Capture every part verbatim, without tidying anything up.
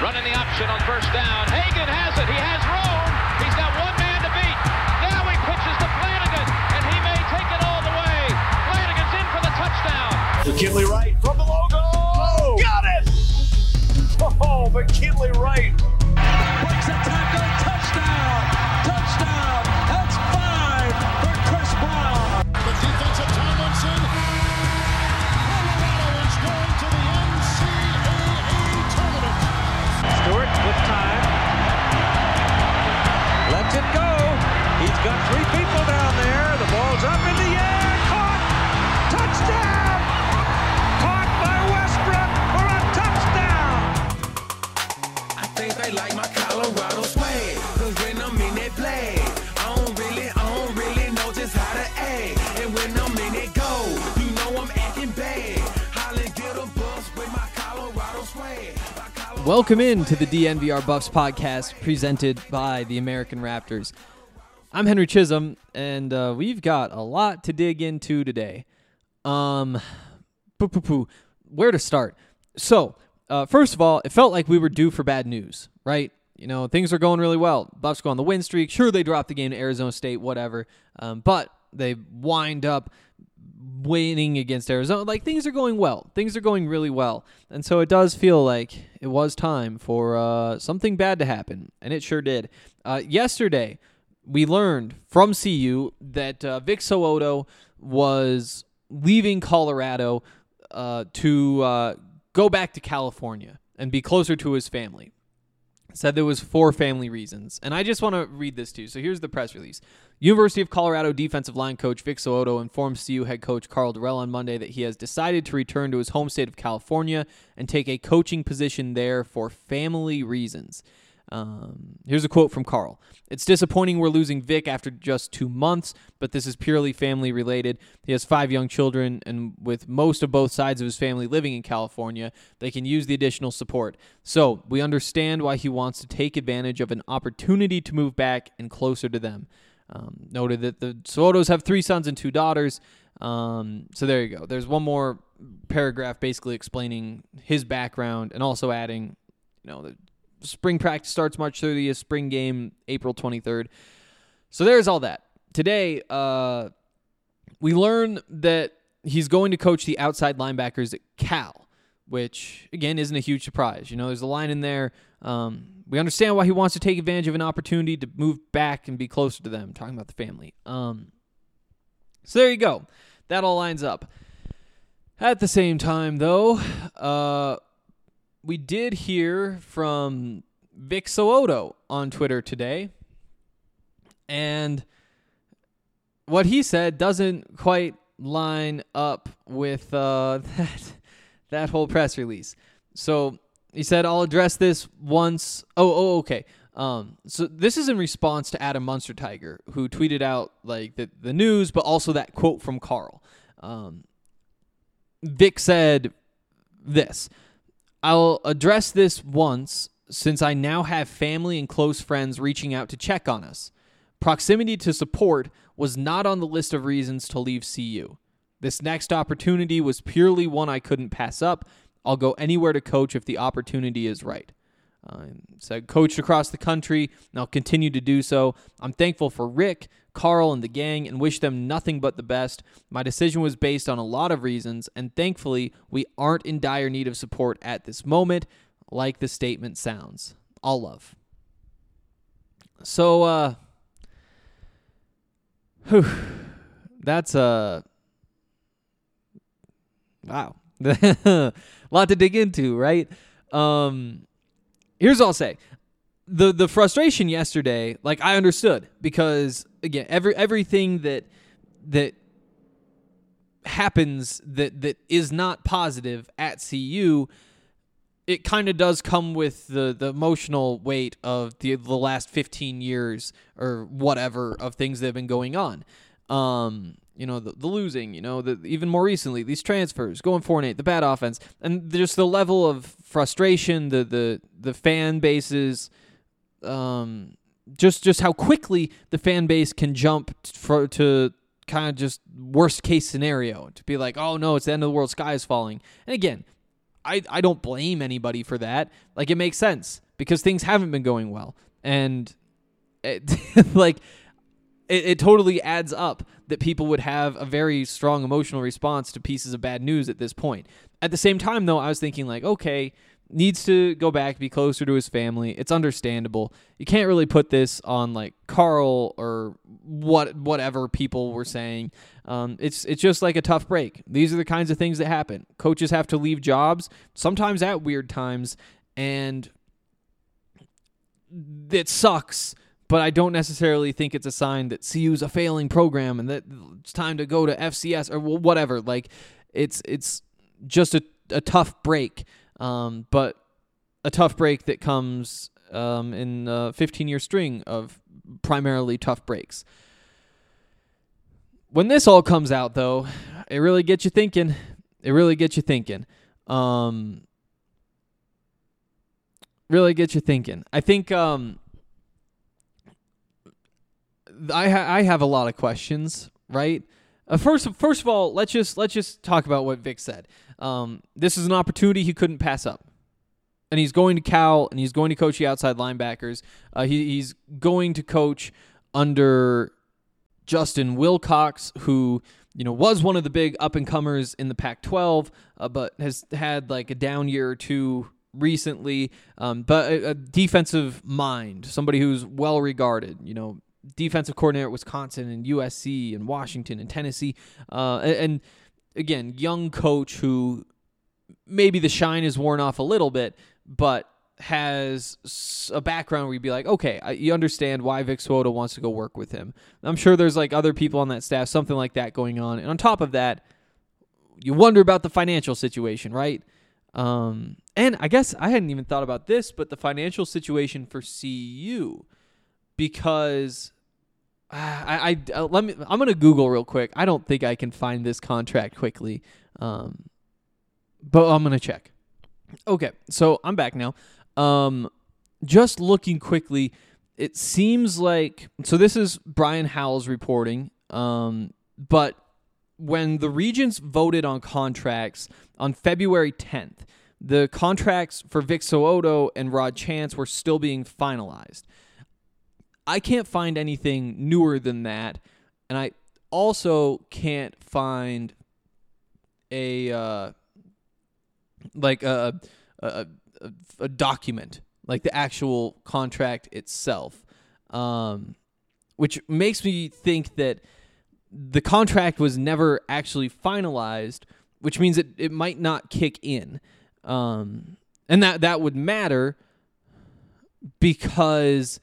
Running the option on first down. Hagan has it. He has room. He's got one man to beat. Now he pitches to Flanagan, and he may take it all the way. Flanagan's in for the touchdown. McKinley Wright from the logo. Oh, got it! Oh, McKinley Wright. Breaks a tackle. Touchdown. Touchdown. That's five for Chris Brown. The defensive Tomlinson. Colorado is going to the N C double A tournament. Stewart with time. Lets it go. He's got three people down there. The ball's up in the air. Caught. Touchdown. Caught by Westbrook for a touchdown. I think they like my Colorado swag. Cause when I'm in that play, I don't really, I don't really know just how to act. And when I'm in it go, you know I'm acting bad. Holly get a bus with my Colorado swag. My Colorado Welcome in to the D N V R Buffs podcast presented by the American Raptors. I'm Henry Chisholm, and uh, we've got a lot to dig into today. Um, poo poo poo. Where to start? So, uh, first of all, it felt like we were due for bad news, right? You know, things are going really well. Buffs go on the win streak. Sure, they dropped the game to Arizona State, whatever. Um, but they wind up winning against Arizona. Like, things are going well. Things are going really well. And so it does feel like it was time for uh, something bad to happen, and it sure did. Uh, yesterday, we learned from C U that uh, Vic So'oto was leaving Colorado uh, to uh, go back to California and be closer to his family. Said there was four family reasons. And I just want to read this to you. So here's the press release. University of Colorado defensive line coach Vic So'oto informed C U head coach Karl Dorrell on Monday that he has decided to return to his home state of California and take a coaching position there for family reasons. Um, here's a quote from Karl. It's disappointing we're losing Vic after just two months, but this is purely family related. He has five young children, and with most of both sides of his family living in California, they can use the additional support. So we understand why he wants to take advantage of an opportunity to move back and closer to them. Um, noted that the So'otos have three sons and two daughters. Um, so there you go. There's one more paragraph basically explaining his background and also adding, you know, the spring practice starts March thirtieth, spring game April twenty-third. So there's all that. Today, uh, we learn that he's going to coach the outside linebackers at Cal, which, again, isn't a huge surprise. You know, there's a line in there. Um, we understand why he wants to take advantage of an opportunity to move back and be closer to them, talking about the family. Um, so there you go. That all lines up. At the same time, though, uh, we did hear from Vic So'oto on Twitter today, and what he said doesn't quite line up with uh, that that whole press release. So he said, "I'll address this once." Oh, oh, okay. Um, so this is in response to Adam Munsterteiger, who tweeted out like the the news, but also that quote from Karl. Um, Vic said this. I'll address this once, since I now have family and close friends reaching out to check on us. Proximity to support was not on the list of reasons to leave C U. This next opportunity was purely one I couldn't pass up. I'll go anywhere to coach if the opportunity is right. Uh, so I coached across the country, and I'll continue to do so. I'm thankful for Rick, Karl, and the gang, and wish them nothing but the best. My decision was based on a lot of reasons, and thankfully, we aren't in dire need of support at this moment, like the statement sounds. All love. So, uh, whew, that's, uh, wow. A lot to dig into, right? Um, here's what I'll say. The the frustration yesterday, like, I understood, because again, every everything that that happens that that is not positive at C U, it kind of does come with the, the emotional weight of the the last fifteen years or whatever of things that have been going on. Um, you know, the, the losing, you know, the, even more recently, these transfers, going four and eight, the bad offense, and just the level of frustration, the the the fan bases. Um, just just how quickly the fan base can jump for, to kind of just worst case scenario, to be like, oh no, it's the end of the world, sky is falling. And again, I, I don't blame anybody for that. Like, it makes sense because things haven't been going well. And it, like, it, it totally adds up that people would have a very strong emotional response to pieces of bad news at this point. At the same time, though, I was thinking, like, okay, needs to go back, be closer to his family. It's understandable. You can't really put this on, like, Carl or what whatever people were saying. Um, it's it's just like a tough break. These are the kinds of things that happen. Coaches have to leave jobs, sometimes at weird times, and it sucks. But I don't necessarily think it's a sign that C U's a failing program and that it's time to go to F C S or whatever. Like, it's it's just a, a tough break, um, but a tough break that comes um, in a fifteen-year string of primarily tough breaks. When this all comes out, though, it really gets you thinking. It really gets you thinking. Um, really gets you thinking. I think... Um, I ha- I have a lot of questions, right? Uh, first, first of all, let's just let's just talk about what Vic said. Um, this is an opportunity he couldn't pass up, and he's going to Cal, and he's going to coach the outside linebackers. Uh, he, he's going to coach under Justin Wilcox, who you know was one of the big up and comers in the Pac twelve, uh, but has had like a down year or two recently. Um, but a, a defensive mind, somebody who's well regarded, you know. Defensive coordinator at Wisconsin and U S C and Washington and Tennessee. Uh, and, and again, young coach who maybe the shine is worn off a little bit, but has a background where you'd be like, okay, I, you understand why Vic Swoda wants to go work with him. I'm sure there's like other people on that staff, something like that going on. And on top of that, you wonder about the financial situation, right? Um, and I guess I hadn't even thought about this, but the financial situation for C U, because I, I, uh, let me. I'm gonna Google real quick. I don't think I can find this contract quickly, um, but I'm gonna check. Okay, so I'm back now. Um, just looking quickly, it seems like so. This is Brian Howell's reporting. Um, but when the Regents voted on contracts on February tenth, the contracts for Vic So'oto and Rod Chance were still being finalized. I can't find anything newer than that, and I also can't find a uh, like a, a a a document, like the actual contract itself, um, which makes me think that the contract was never actually finalized, which means that it might not kick in, um, and that that would matter because.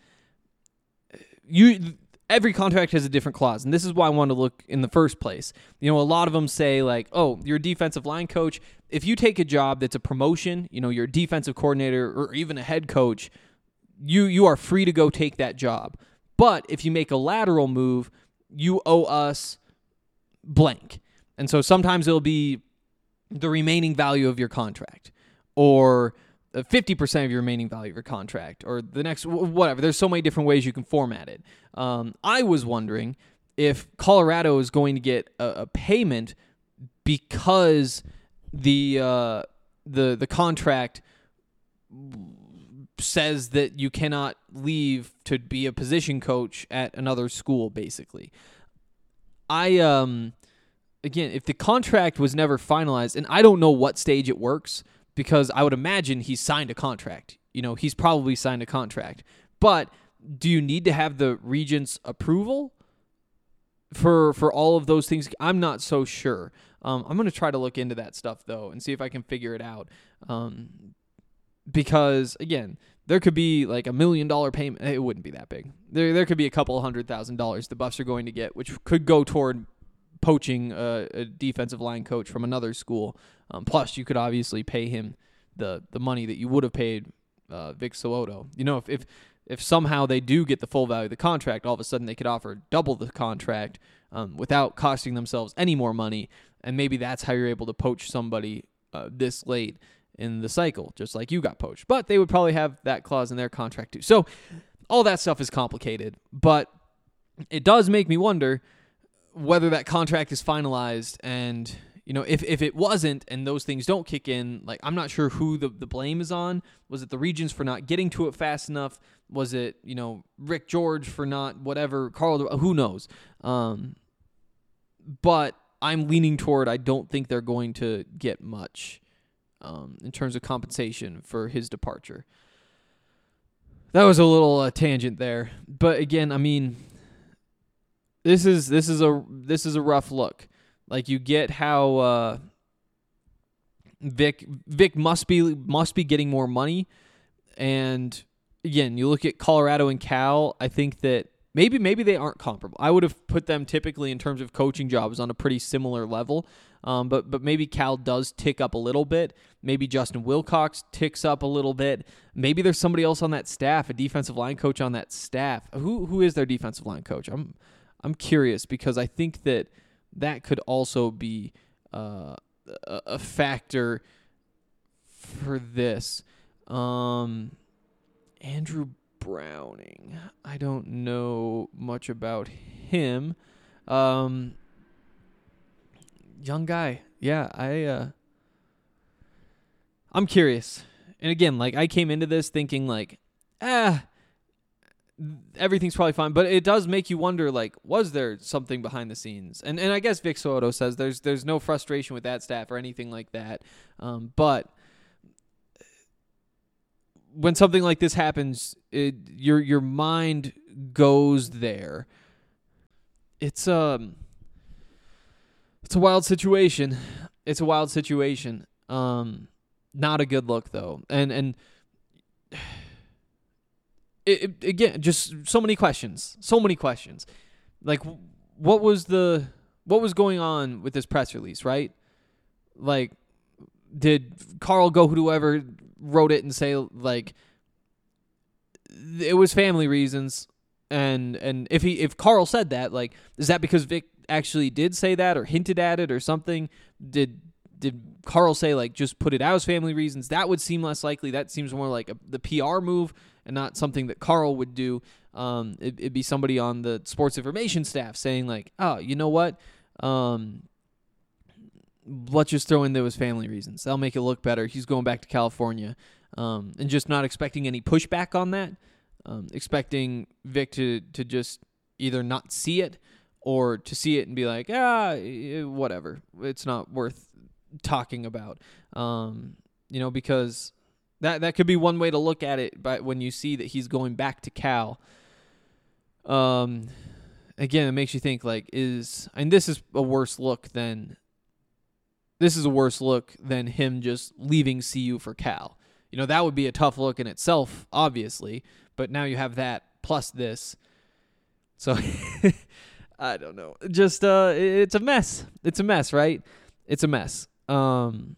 You every contract has a different clause, and this is why I wanted to look in the first place. You know, a lot of them say like, "Oh, you're a defensive line coach. If you take a job that's a promotion, you know, you're a defensive coordinator or even a head coach, you you are free to go take that job. But if you make a lateral move, you owe us blank." And so sometimes it'll be the remaining value of your contract, or fifty percent of your remaining value of your contract, or the next, whatever. There's so many different ways you can format it. Um, I was wondering if Colorado is going to get a, a payment because the uh, the the contract says that you cannot leave to be a position coach at another school, basically. I um again, if the contract was never finalized, and I don't know what stage it works, because I would imagine he's signed a contract. You know, he's probably signed a contract. But do you need to have the Regents' approval for for all of those things? I'm not so sure. Um, I'm going to try to look into that stuff, though, and see if I can figure it out. Um, because, again, there could be like a million dollar payment. It wouldn't be that big. There, there could be a couple hundred thousand dollars the Buffs are going to get, which could go toward poaching a, a defensive line coach from another school. Um, plus, you could obviously pay him the the money that you would have paid uh, Vic So'oto. You know, if, if if somehow they do get the full value of the contract, all of a sudden they could offer double the contract um, without costing themselves any more money, and maybe that's how you're able to poach somebody uh, this late in the cycle, just like you got poached. But they would probably have that clause in their contract too. So all that stuff is complicated, but it does make me wonder whether that contract is finalized and you know, if, if it wasn't and those things don't kick in, like, I'm not sure who the, the blame is on. Was it the Regions for not getting to it fast enough? Was it, you know, Rick George for not whatever, Carl, who knows? Um, but I'm leaning toward I don't think they're going to get much um, in terms of compensation for his departure. That was a little uh, tangent there. But again, I mean, this is this is a this is a rough look. Like, you get how uh, Vic Vic must be must be getting more money, and again, you look at Colorado and Cal. I think that maybe maybe they aren't comparable. I would have put them typically in terms of coaching jobs on a pretty similar level, um, but but maybe Cal does tick up a little bit. Maybe Justin Wilcox ticks up a little bit. Maybe there's somebody else on that staff, a defensive line coach on that staff. Who who is their defensive line coach? I'm I'm curious because I think that. That could also be uh, a, a factor for this. Um, Andrew Browning. I don't know much about him. Um, young guy. Yeah, I. Uh, I'm curious. And again, like, I came into this thinking like, ah. everything's probably fine, but it does make you wonder, like, was there something behind the scenes? And and I guess Vic Soto says there's there's no frustration with that staff or anything like that. Um, but when something like this happens, it, your your mind goes there. It's um, it's a wild situation. It's a wild situation. Um, not a good look though, and and. It, it, again, just so many questions, so many questions. Like, what was the, what was going on with this press release, right? Like, did Carl go whoever wrote it and say, like, it was family reasons, and and if he if Carl said that, like, is that because Vic actually did say that or hinted at it or something? Did did Carl say, like, just put it out as family reasons? That would seem less likely. That seems more like a, the P R move and not something that Carl would do. Um, it, it'd be somebody on the sports information staff saying, like, oh, you know what? Um, let's just throw in there was family reasons. That'll make it look better. He's going back to California. Um, and just not expecting any pushback on that. Um, expecting Vic to, to just either not see it or to see it and be like, ah, whatever. It's not worth talking about. Um, you know, because that that could be one way to look at it. But when you see that he's going back to Cal, um, again, it makes you think, like, is and this is a worse look than this is a worse look than him just leaving C U for Cal. You know, that would be a tough look in itself, obviously. But now you have that plus this. So I don't know. Just uh, it's a mess. It's a mess, right? It's a mess. Um,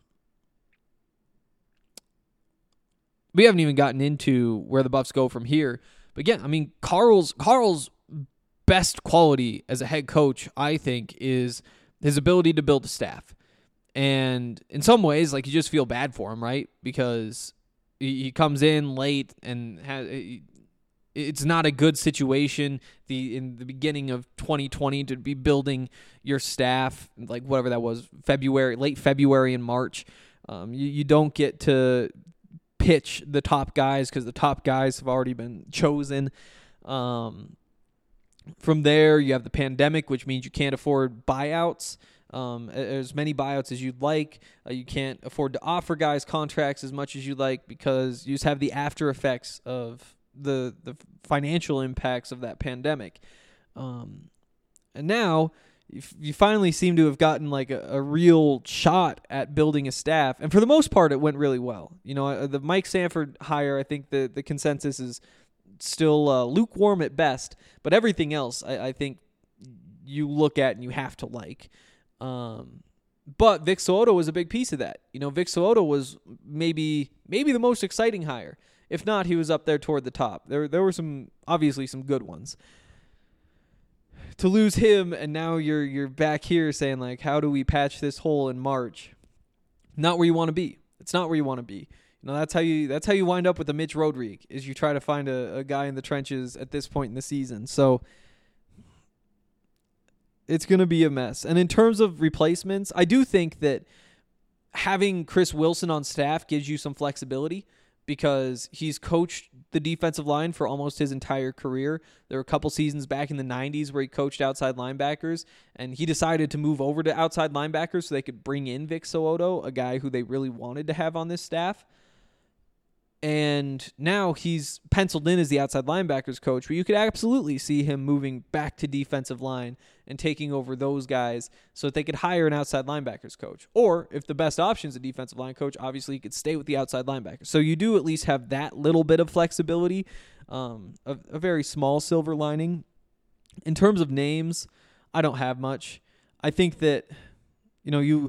we haven't even gotten into where the Buffs go from here. But again, I mean, Carl's Carl's best quality as a head coach, I think, is his ability to build a staff. And in some ways, like, you just feel bad for him, right? Because he, he comes in late and has, it's not a good situation the in the beginning of twenty twenty to be building your staff, like whatever that was, February, late February and March. Um, you, you don't get to pitch the top guys because the top guys have already been chosen. Um, from there, you have the pandemic, which means you can't afford buyouts. Um, as many buyouts as you'd like. Uh, you can't afford to offer guys contracts as much as you'd like because you just have the after effects of the the financial impacts of that pandemic. Um, and now you, f- you finally seem to have gotten like a, a real shot at building a staff. And for the most part, it went really well. You know, uh, the Mike Sanford hire, I think the, the consensus is still uh, lukewarm at best, but everything else I, I think you look at and you have to like. Um, but Vic Soto was a big piece of that. You know, Vic Soto was maybe maybe the most exciting hire. If not, he was up there toward the top. There there were some obviously some good ones. To lose him and now you're you're back here saying, like, how do we patch this hole in March? Not where you want to be. It's not where you want to be. You know, that's how you that's how you wind up with the Mitch Rodrigue, is you try to find a, a guy in the trenches at this point in the season. So It's going to be a mess. And in terms of replacements, I do think that having Chris Wilson on staff gives you some flexibility because he's coached the defensive line for almost his entire career. There were a couple seasons back in the nineties where he coached outside linebackers, and he decided to move over to outside linebackers so they could bring in Vic So'oto, a guy who they really wanted to have on this staff. And now he's penciled in as the outside linebackers coach, but you could absolutely see him moving back to defensive line and taking over those guys so that they could hire an outside linebackers coach. Or if the best option is a defensive line coach, obviously you could stay with the outside linebackers. So you do at least have that little bit of flexibility, um, a, a very small silver lining. In terms of names, I don't have much. I think that, you know, you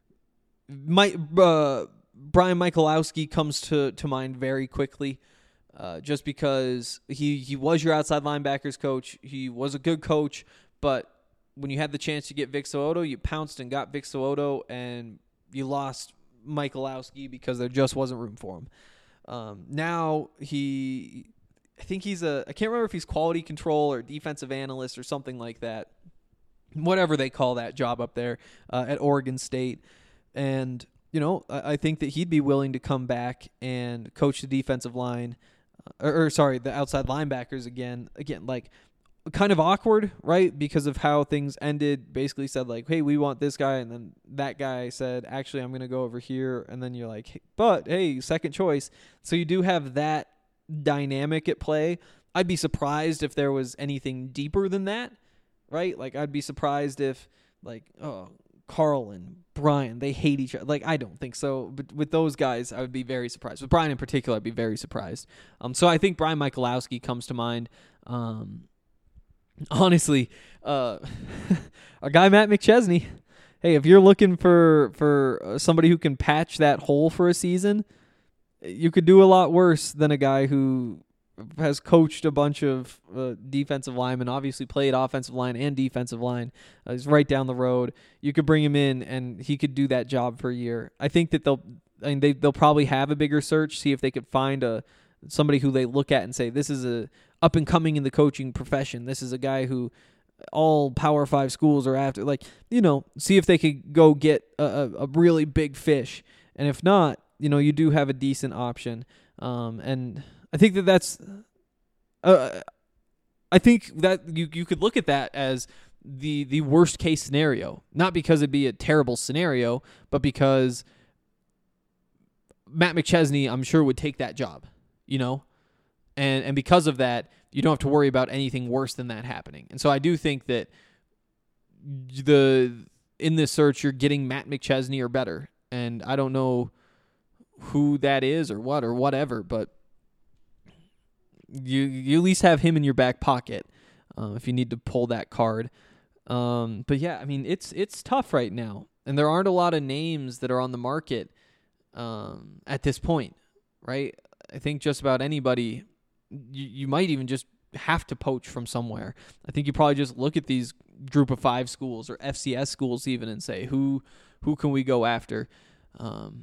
might... Uh, Brian Michalowski comes to, to mind very quickly uh, just because he, he was your outside linebackers coach. He was a good coach, but when you had the chance to get Vic So'oto, you pounced and got Vic So'oto, and you lost Michalowski because there just wasn't room for him. Um, now he, I think he's a, I can't remember if he's quality control or defensive analyst or something like that, whatever they call that job up there uh, at Oregon State. And you know, I think that he'd be willing to come back and coach the defensive line, uh, or, or sorry, the outside linebackers again. Again, like kind of awkward, right? Because of how things ended. Basically said like, hey, we want this guy, and then that guy said, actually, I'm going to go over here, and then you're like, hey, but hey, second choice. So you do have that dynamic at play. I'd be surprised if there was anything deeper than that, right? Like I'd be surprised if like, oh. Carl and Brian, they hate each other. Like, I don't think so. But with those guys, I would be very surprised. With Brian in particular, I'd be very surprised. Um, so I think Brian Michalowski comes to mind. Um, honestly, uh, our guy Matt McChesney. Hey, if you're looking for for somebody who can patch that hole for a season, you could do a lot worse than a guy who has coached a bunch of uh, defensive linemen, obviously played offensive line and defensive line. Uh, he's right down the road. You could bring him in, and he could do that job for a year. I think that they'll, I mean, they they'll probably have a bigger search, see if they could find a somebody who they look at and say, this is a up and coming in the coaching profession. This is a guy who all Power Five schools are after. Like, you know, see if they could go get a, a, a really big fish. And if not, you know, you do have a decent option. Um, and I think that that's, uh, I think that you you could look at that as the the worst case scenario, not because it'd be a terrible scenario, but because Matt McChesney, I'm sure, would take that job, you know, and and because of that, you don't have to worry about anything worse than that happening. And so I do think that the in this search you're getting Matt McChesney or better, and I don't know who that is or what or whatever, but you you at least have him in your back pocket uh, if you need to pull that card. Um, but yeah, I mean, it's it's tough right now, and there aren't a lot of names that are on the market um, at this point, right? I think just about anybody, you, you might even just have to poach from somewhere. I think you probably just look at these group of five schools or F C S schools even and say, who who can we go after? Um,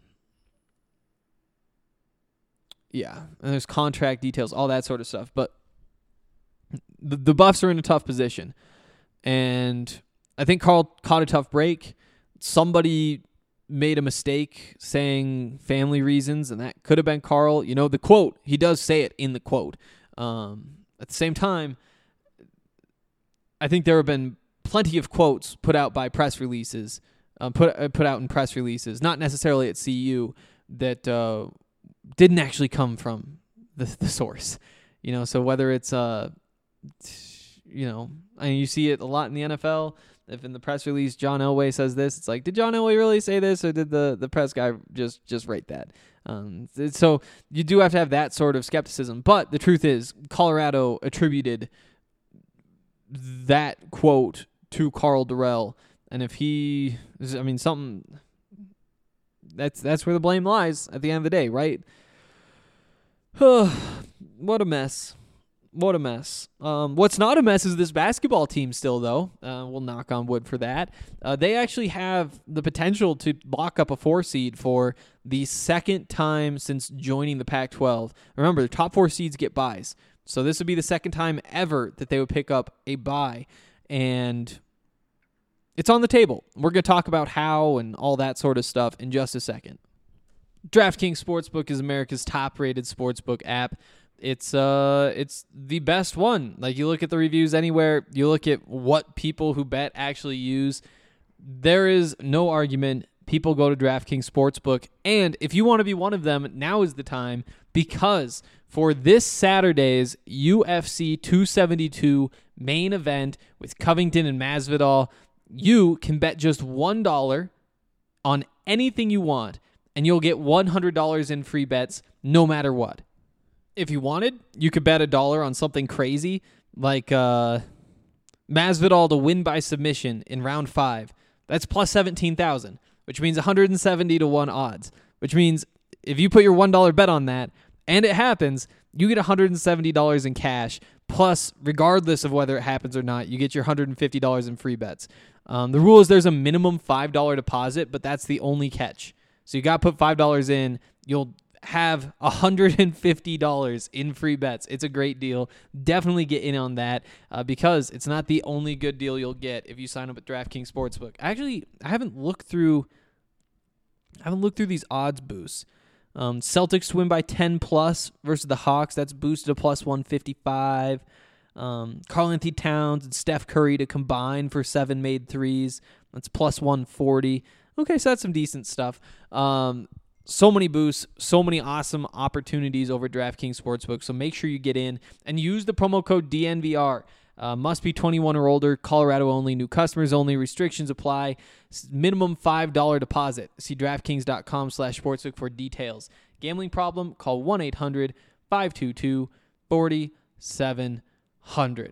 Yeah, and there's contract details, all that sort of stuff. But the, the Buffs are in a tough position. And I think Carl caught a tough break. Somebody made a mistake saying family reasons, and that could have been Carl. You know, the quote, he does say it in the quote. Um, at the same time, I think there have been plenty of quotes put out by press releases, um, put uh, put out in press releases, not necessarily at C U, that uh, didn't actually come from the the source, you know. So whether it's uh, you know, I mean, you see it a lot in the N F L. If in the press release John Elway says this, it's like, did John Elway really say this, or did the the press guy just just write that? Um, so you do have to have that sort of skepticism. But the truth is, Colorado attributed that quote to Karl Dorrell, and if he, I mean, something. That's that's where the blame lies at the end of the day, right? What a mess. What a mess. Um, what's not a mess is this basketball team still, though. Uh, we'll knock on wood for that. Uh, they actually have the potential to lock up a four seed for the second time since joining the Pac twelve. Remember, the top four seeds get buys. So this would be the second time ever that they would pick up a bye. And it's on the table. We're going to talk about how and all that sort of stuff in just a second. DraftKings Sportsbook is America's top-rated sportsbook app. It's uh, it's the best one. Like, you look at the reviews anywhere, you look at what people who bet actually use. There is no argument. People go to DraftKings Sportsbook, and if you want to be one of them, now is the time, because for this Saturday's U F C two seventy-two main event with Covington and Masvidal, you can bet just one dollar on anything you want, and you'll get one hundred dollars in free bets no matter what. If you wanted, you could bet a dollar on something crazy like uh, Masvidal to win by submission in round five. That's plus seventeen thousand, which means one hundred seventy to one odds, which means if you put your one dollar bet on that and it happens, you get one hundred seventy dollars in cash. Plus, regardless of whether it happens or not, you get your one hundred fifty dollars in free bets. Um, the rule is there's a minimum five dollars deposit, but that's the only catch. So you got to put five dollars in. You'll have one hundred fifty dollars in free bets. It's a great deal. Definitely get in on that uh, because it's not the only good deal you'll get if you sign up at DraftKings Sportsbook. Actually, I haven't looked through I haven't looked through these odds boosts. Um, Celtics to win by ten plus versus the Hawks. That's boosted to plus one fifty-five. Um, Karl-Anthony Towns and Steph Curry to combine for seven made threes. That's plus one forty. Okay, so that's some decent stuff. Um, so many boosts, so many awesome opportunities over DraftKings Sportsbook. So make sure you get in and use the promo code D N V R. Uh, must be twenty-one or older. Colorado only. New customers only. Restrictions apply. Minimum five dollars deposit. See DraftKings.com slash sportsbook for details. Gambling problem? Call one eight hundred five two two four seven zero zero.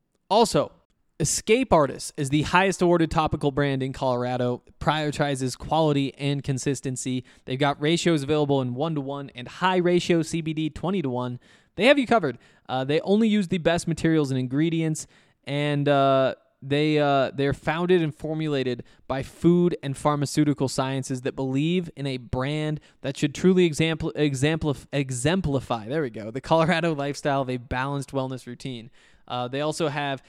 Also, Escape Artist is the highest awarded topical brand in Colorado. Prioritizes quality and consistency. They've got ratios available in one to one and high ratio C B D twenty to one. They have you covered. Uh, they only use the best materials and ingredients, and uh, they uh, they're founded and formulated by food and pharmaceutical sciences that believe in a brand that should truly exampl- exemplif- exemplify. There we go. The Colorado lifestyle of a balanced wellness routine. Uh, they also have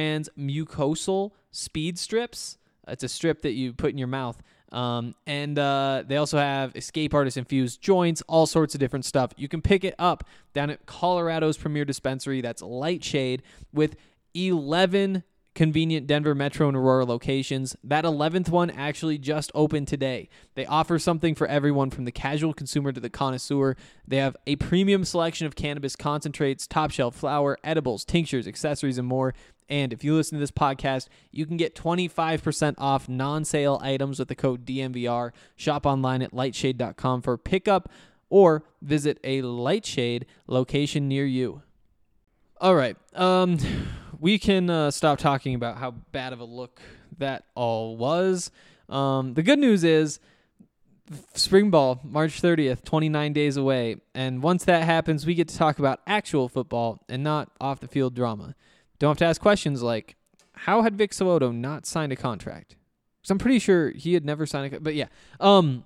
transmucosal speed strips. It's a strip that you put in your mouth. Um, and uh, they also have Escape Artist infused joints, all sorts of different stuff. You can pick it up down at Colorado's premier dispensary. That's Lightshade, with eleven convenient Denver Metro and Aurora locations. That eleventh one actually just opened today. They offer something for everyone from the casual consumer to the connoisseur. They have a premium selection of cannabis concentrates, top shelf flower, edibles, tinctures, accessories, and more. And if you listen to this podcast, you can get twenty-five percent off non-sale items with the code D M V R. Shop online at lightshade dot com for pickup or visit a Lightshade location near you. All right. Um, we can uh, stop talking about how bad of a look that all was. Um, the good news is spring ball, March thirtieth, twenty-nine days away. And once that happens, we get to talk about actual football and not off-the-field drama. Don't have to ask questions like, how had Vic So'oto not signed a contract? Because I'm pretty sure he had never signed a contract. But yeah. Um,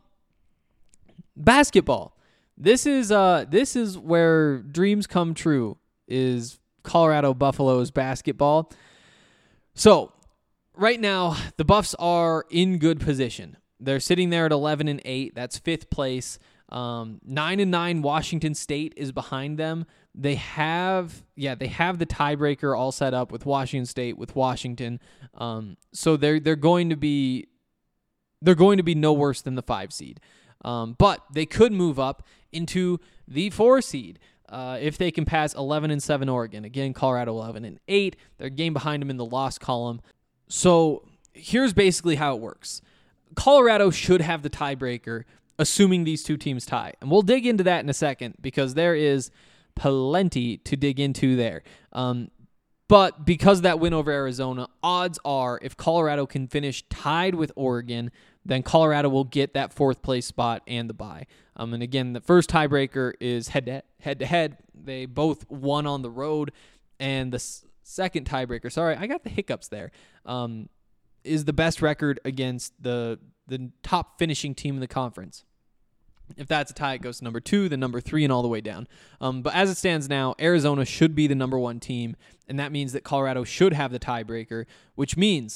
basketball. This is uh this is where dreams come true, is Colorado Buffaloes basketball. So right now, the Buffs are in good position. They're sitting there at eleven and eight. That's fifth place. Um, nine and nine Washington State is behind them. They have, yeah, they have the tiebreaker all set up with Washington State, with Washington. Um, so they're they're going to be they're going to be no worse than the five seed. Um, but they could move up into the four seed uh, if they can pass eleven and seven Oregon. Again, Colorado eleven and eight. They're a game behind them in the loss column. So here's basically how it works. Colorado should have the tiebreaker, assuming these two teams tie. And we'll dig into that in a second because there is plenty to dig into there. Um, but because of that win over Arizona, odds are if Colorado can finish tied with Oregon, then Colorado will get that fourth place spot and the bye. Um, and again, the first tiebreaker is head to head. To head. They both won on the road. And the s- second tiebreaker, sorry, I got the hiccups there, um, is the best record against the the top finishing team in the conference. If that's a tie, it goes to number two, then number three, and all the way down. Um, but as it stands now, Arizona should be the number one team, and that means that Colorado should have the tiebreaker, which means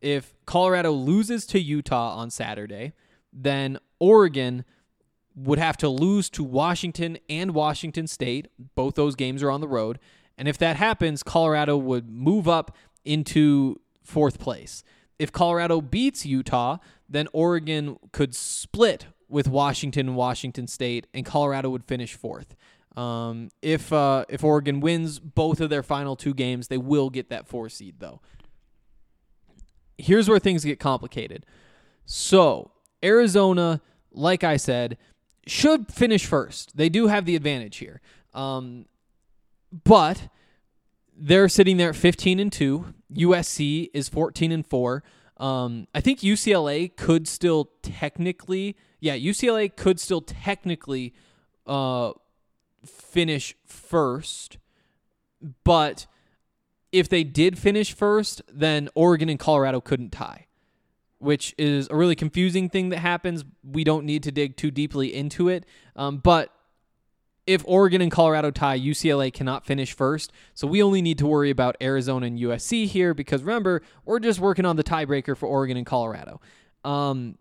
if Colorado loses to Utah on Saturday, then Oregon would have to lose to Washington and Washington State. Both those games are on the road. And if that happens, Colorado would move up into fourth place. If Colorado beats Utah, then Oregon could split with Washington and Washington State, and Colorado would finish fourth. Um, if uh, if Oregon wins both of their final two games, they will get that four seed, though. Here's where things get complicated. So, Arizona, like I said, should finish first. They do have the advantage here. Um, but they're sitting there at fifteen and two. U S C is fourteen and four. Um, I think U C L A could still technically, yeah, U C L A could still technically uh, finish first. But if they did finish first, then Oregon and Colorado couldn't tie, which is a really confusing thing that happens. We don't need to dig too deeply into it. Um, but if Oregon and Colorado tie, U C L A cannot finish first. So we only need to worry about Arizona and U S C here because, remember, we're just working on the tiebreaker for Oregon and Colorado. Um,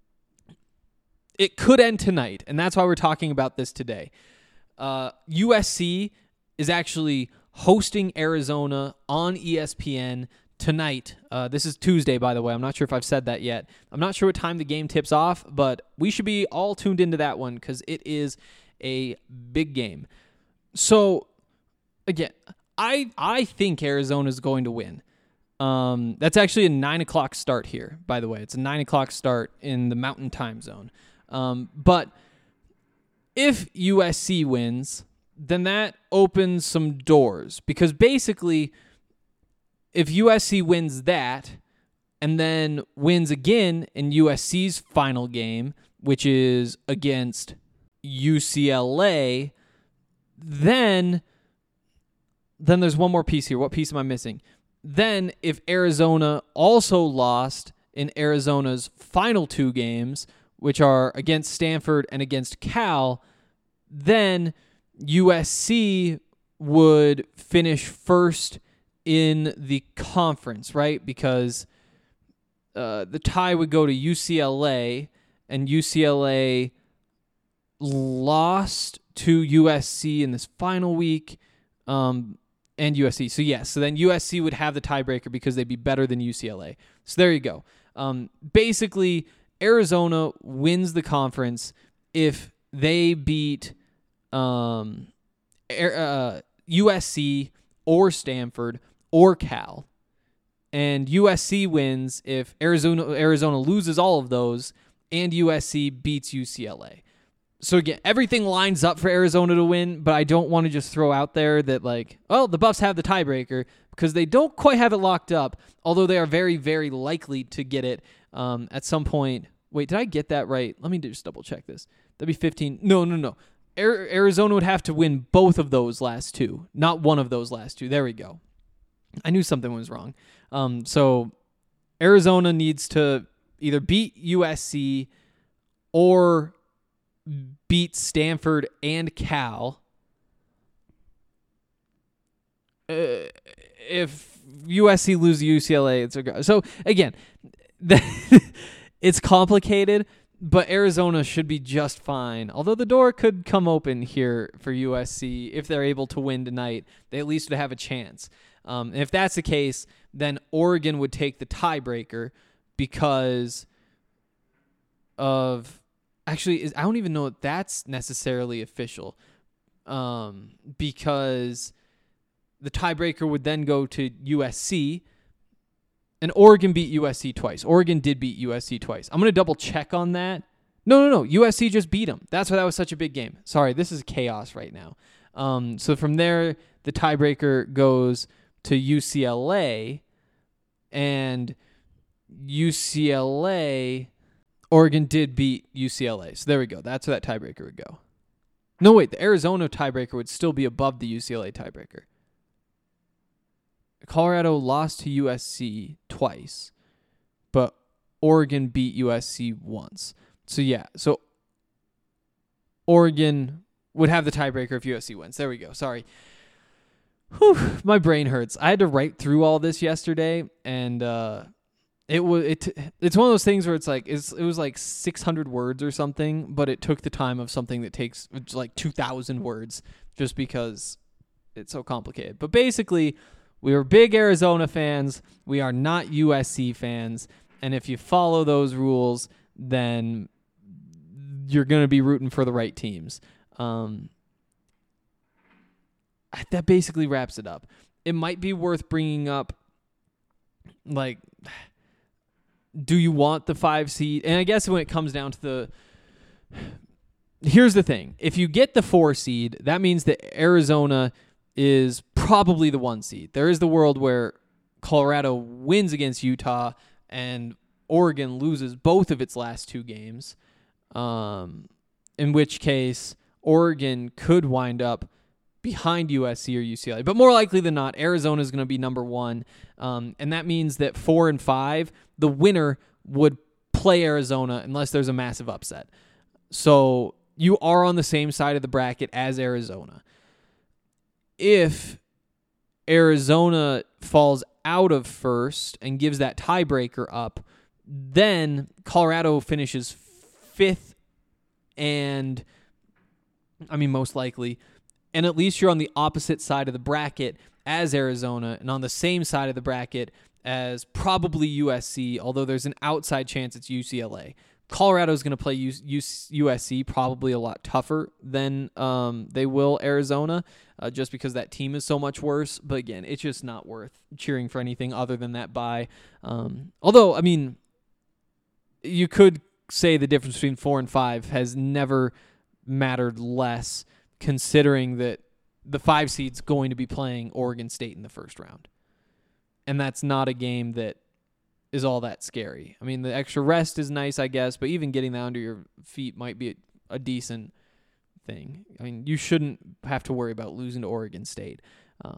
it could end tonight, and that's why we're talking about this today. Uh, U S C is actually hosting Arizona on E S P N tonight. Uh, this is Tuesday, by the way. I'm not sure if I've said that yet. I'm not sure what time the game tips off, but we should be all tuned into that one because it is a big game. So, again, I I think Arizona is going to win. Um, that's actually a nine o'clock start here, by the way. It's a nine o'clock start in the Mountain Time Zone. Um, but if U S C wins, then that opens some doors because basically, if U S C wins that and then wins again in U S C's final game, which is against U C L A, then then there's one more piece here. What piece am I missing? Then if Arizona also lost in Arizona's final two games, which are against Stanford and against Cal, then U S C would finish first in the conference, right? Because uh, the tie would go to U C L A, and U C L A lost to U S C in this final week, um, and U S C. So, yes, so then U S C would have the tiebreaker because they'd be better than U C L A. So there you go. Um, basically, Arizona wins the conference if they beat um, uh, U S C or Stanford or Cal. And U S C wins if Arizona Arizona loses all of those and U S C beats U C L A. So again, everything lines up for Arizona to win, but I don't want to just throw out there that, like, well, the Buffs have the tiebreaker because they don't quite have it locked up, although they are very, very likely to get it um, at some point. Wait, did I get that right? Let me just double check this. That'd be fifteen. No, no, no. Arizona would have to win both of those last two, not one of those last two. There we go. I knew something was wrong. Um, so Arizona needs to either beat U S C or beat Stanford and Cal. Uh, if U S C loses U C L A, it's a go. So again, it's complicated, but Arizona should be just fine. Although the door could come open here for U S C if they're able to win tonight. They at least would have a chance. Um, and if that's the case, then Oregon would take the tiebreaker because of... Actually, is I don't even know if that's necessarily official um, because the tiebreaker would then go to U S C, and Oregon beat U S C twice. Oregon did beat U S C twice. I'm going to double check on that. No, no, no. U S C just beat them. That's why that was such a big game. Sorry, this is chaos right now. Um, so from there, the tiebreaker goes to U C L A, and U C L A... Oregon did beat U C L A. So there we go. That's where that tiebreaker would go. No, wait. The Arizona tiebreaker would still be above the U C L A tiebreaker. Colorado lost to U S C twice, but Oregon beat U S C once. So, yeah. So, Oregon would have the tiebreaker if U S C wins. There we go. Sorry. Whew, my brain hurts. I had to write through all this yesterday, and... uh it was it. It's one of those things where it's like it's it was like six hundred words or something, but it took the time of something that takes it's like two thousand words just because it's so complicated. But basically, we were big Arizona fans. We are not U S C fans, and if you follow those rules, then you're going to be rooting for the right teams. Um, that basically wraps it up. It might be worth bringing up, like, do you want the five seed? And I guess when it comes down to the, here's the thing. If you get the four seed, that means that Arizona is probably the one seed. There is the world where Colorado wins against Utah and Oregon loses both of its last two games, um, in which case Oregon could wind up behind U S C or U C L A. But more likely than not, Arizona is going to be number one, um, and that means that four and five, the winner would play Arizona unless there's a massive upset. So you are on the same side of the bracket as Arizona. If Arizona falls out of first and gives that tiebreaker up, then Colorado finishes fifth and, I mean, most likely, and at least you're on the opposite side of the bracket as Arizona and on the same side of the bracket as probably U S C, although there's an outside chance it's U C L A. Colorado's going to play U- U- U S C probably a lot tougher than um, they will Arizona, uh, just because that team is so much worse. But again, it's just not worth cheering for anything other than that bye. Um, although, I mean, you could say the difference between four and five has never mattered less, considering that the five seed's going to be playing Oregon State in the first round. And that's not a game that is all that scary. I mean, the extra rest is nice, I guess, but even getting that under your feet might be a, a decent thing. I mean, you shouldn't have to worry about losing to Oregon State. Uh,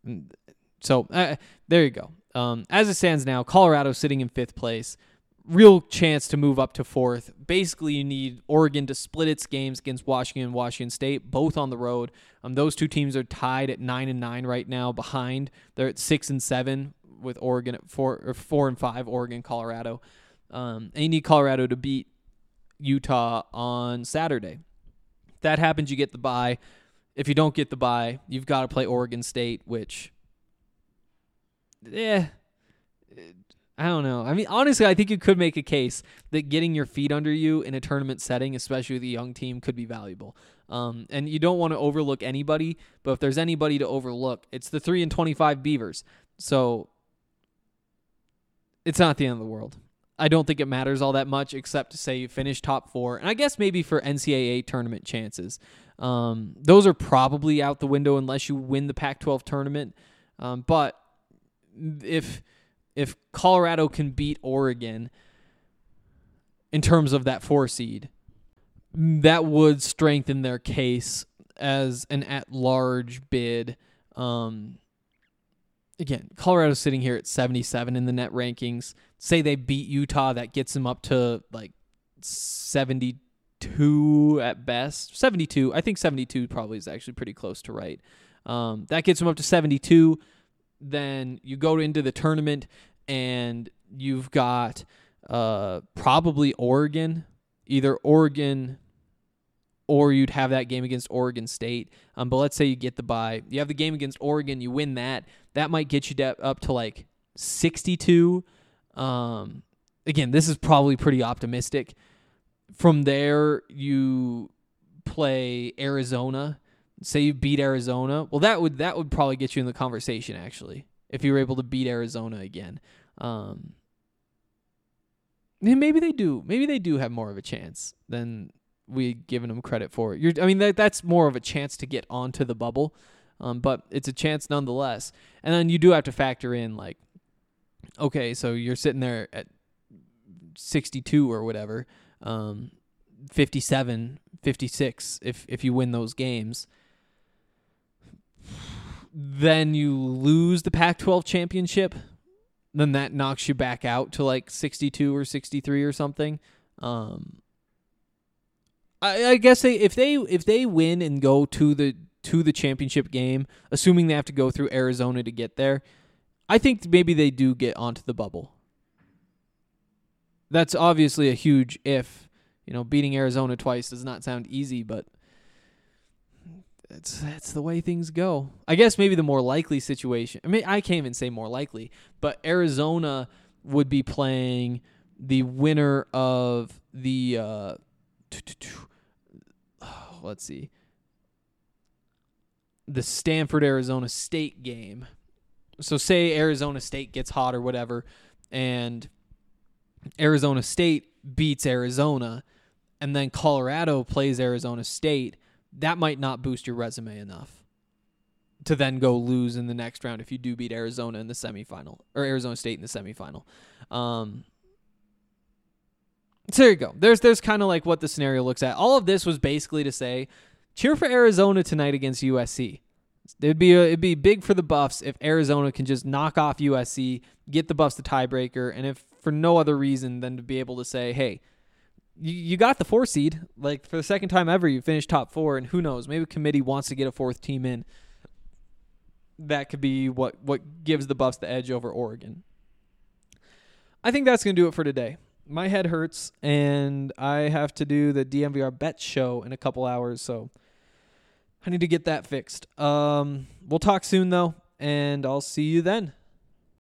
so uh, there you go. Um, as it stands now, Colorado sitting in fifth place. Real chance to move up to fourth. Basically, you need Oregon to split its games against Washington and Washington State, both on the road. Um, those two teams are tied at nine and nine right now. Behind, they're at six and seven with Oregon at four or four and five. Oregon, Colorado, um, and you need Colorado to beat Utah on Saturday. If that happens, you get the bye. If you don't get the bye, you've got to play Oregon State, which, yeah. I don't know. I mean, honestly, I think you could make a case that getting your feet under you in a tournament setting, especially with a young team, could be valuable. Um, and you don't want to overlook anybody, but if there's anybody to overlook, it's the three and twenty-five Beavers. So it's not the end of the world. I don't think it matters all that much, except to say you finish top four, and I guess maybe for N C double A tournament chances. Um, those are probably out the window unless you win the Pac twelve tournament. Um, but if If Colorado can beat Oregon in terms of that four seed, that would strengthen their case as an at-large bid. Um, again, Colorado's sitting here at seventy-seven in the net rankings. Say they beat Utah, that gets them up to like seventy-two at best. seventy-two. I think seventy-two probably is actually pretty close to right. Um, that gets them up to seventy-two. Then you go into the tournament and you've got uh, probably Oregon, either Oregon or you'd have that game against Oregon State. Um, but let's say you get the bye. You have the game against Oregon, you win that. That might get you de- up to like sixty-two. Um, again, this is probably pretty optimistic. From there, you play Arizona. Say you beat Arizona. Well, that would that would probably get you in the conversation, actually, if you were able to beat Arizona again. Um, maybe they do. Maybe they do have more of a chance than we given them credit for. You're, I mean, that that's more of a chance to get onto the bubble, um, but it's a chance nonetheless. And then you do have to factor in, like, okay, so you're sitting there at sixty-two or whatever, um, fifty-seven, fifty-six if if you win those games. Then you lose the Pac twelve championship, then that knocks you back out to like sixty-two or sixty-three or something. Um, I, I guess they, if they if they win and go to the to the championship game, assuming they have to go through Arizona to get there, I think maybe they do get onto the bubble. that's obviously a huge if. You know, beating Arizona twice does not sound easy, but it's that's the way things go. I guess maybe the more likely situation. I mean, I can't even say more likely, but Arizona would be playing the winner of the uh, let's see, the Stanford Arizona State game. So say Arizona State gets hot or whatever, and Arizona State beats Arizona, and then Colorado plays Arizona State. That might not boost your resume enough to then go lose in the next round if you do beat Arizona in the semifinal, or Arizona State in the semifinal. Um, so there you go. There's there's kind of like what the scenario looks at. All of this was basically to say, cheer for Arizona tonight against U S C. It'd be a, it'd be big for the Buffs if Arizona can just knock off U S C, get the Buffs the tiebreaker, and if for no other reason than to be able to say, hey, you, you got the four seed. Like, for the second time ever, you finished top four, and who knows, maybe a committee wants to get a fourth team in. That could be what, what gives the Buffs the edge over Oregon. I think that's going to do it for today. My head hurts, and I have to do the D M V R Bet show in a couple hours, so I need to get that fixed. Um, we'll talk soon, though, and I'll see you then.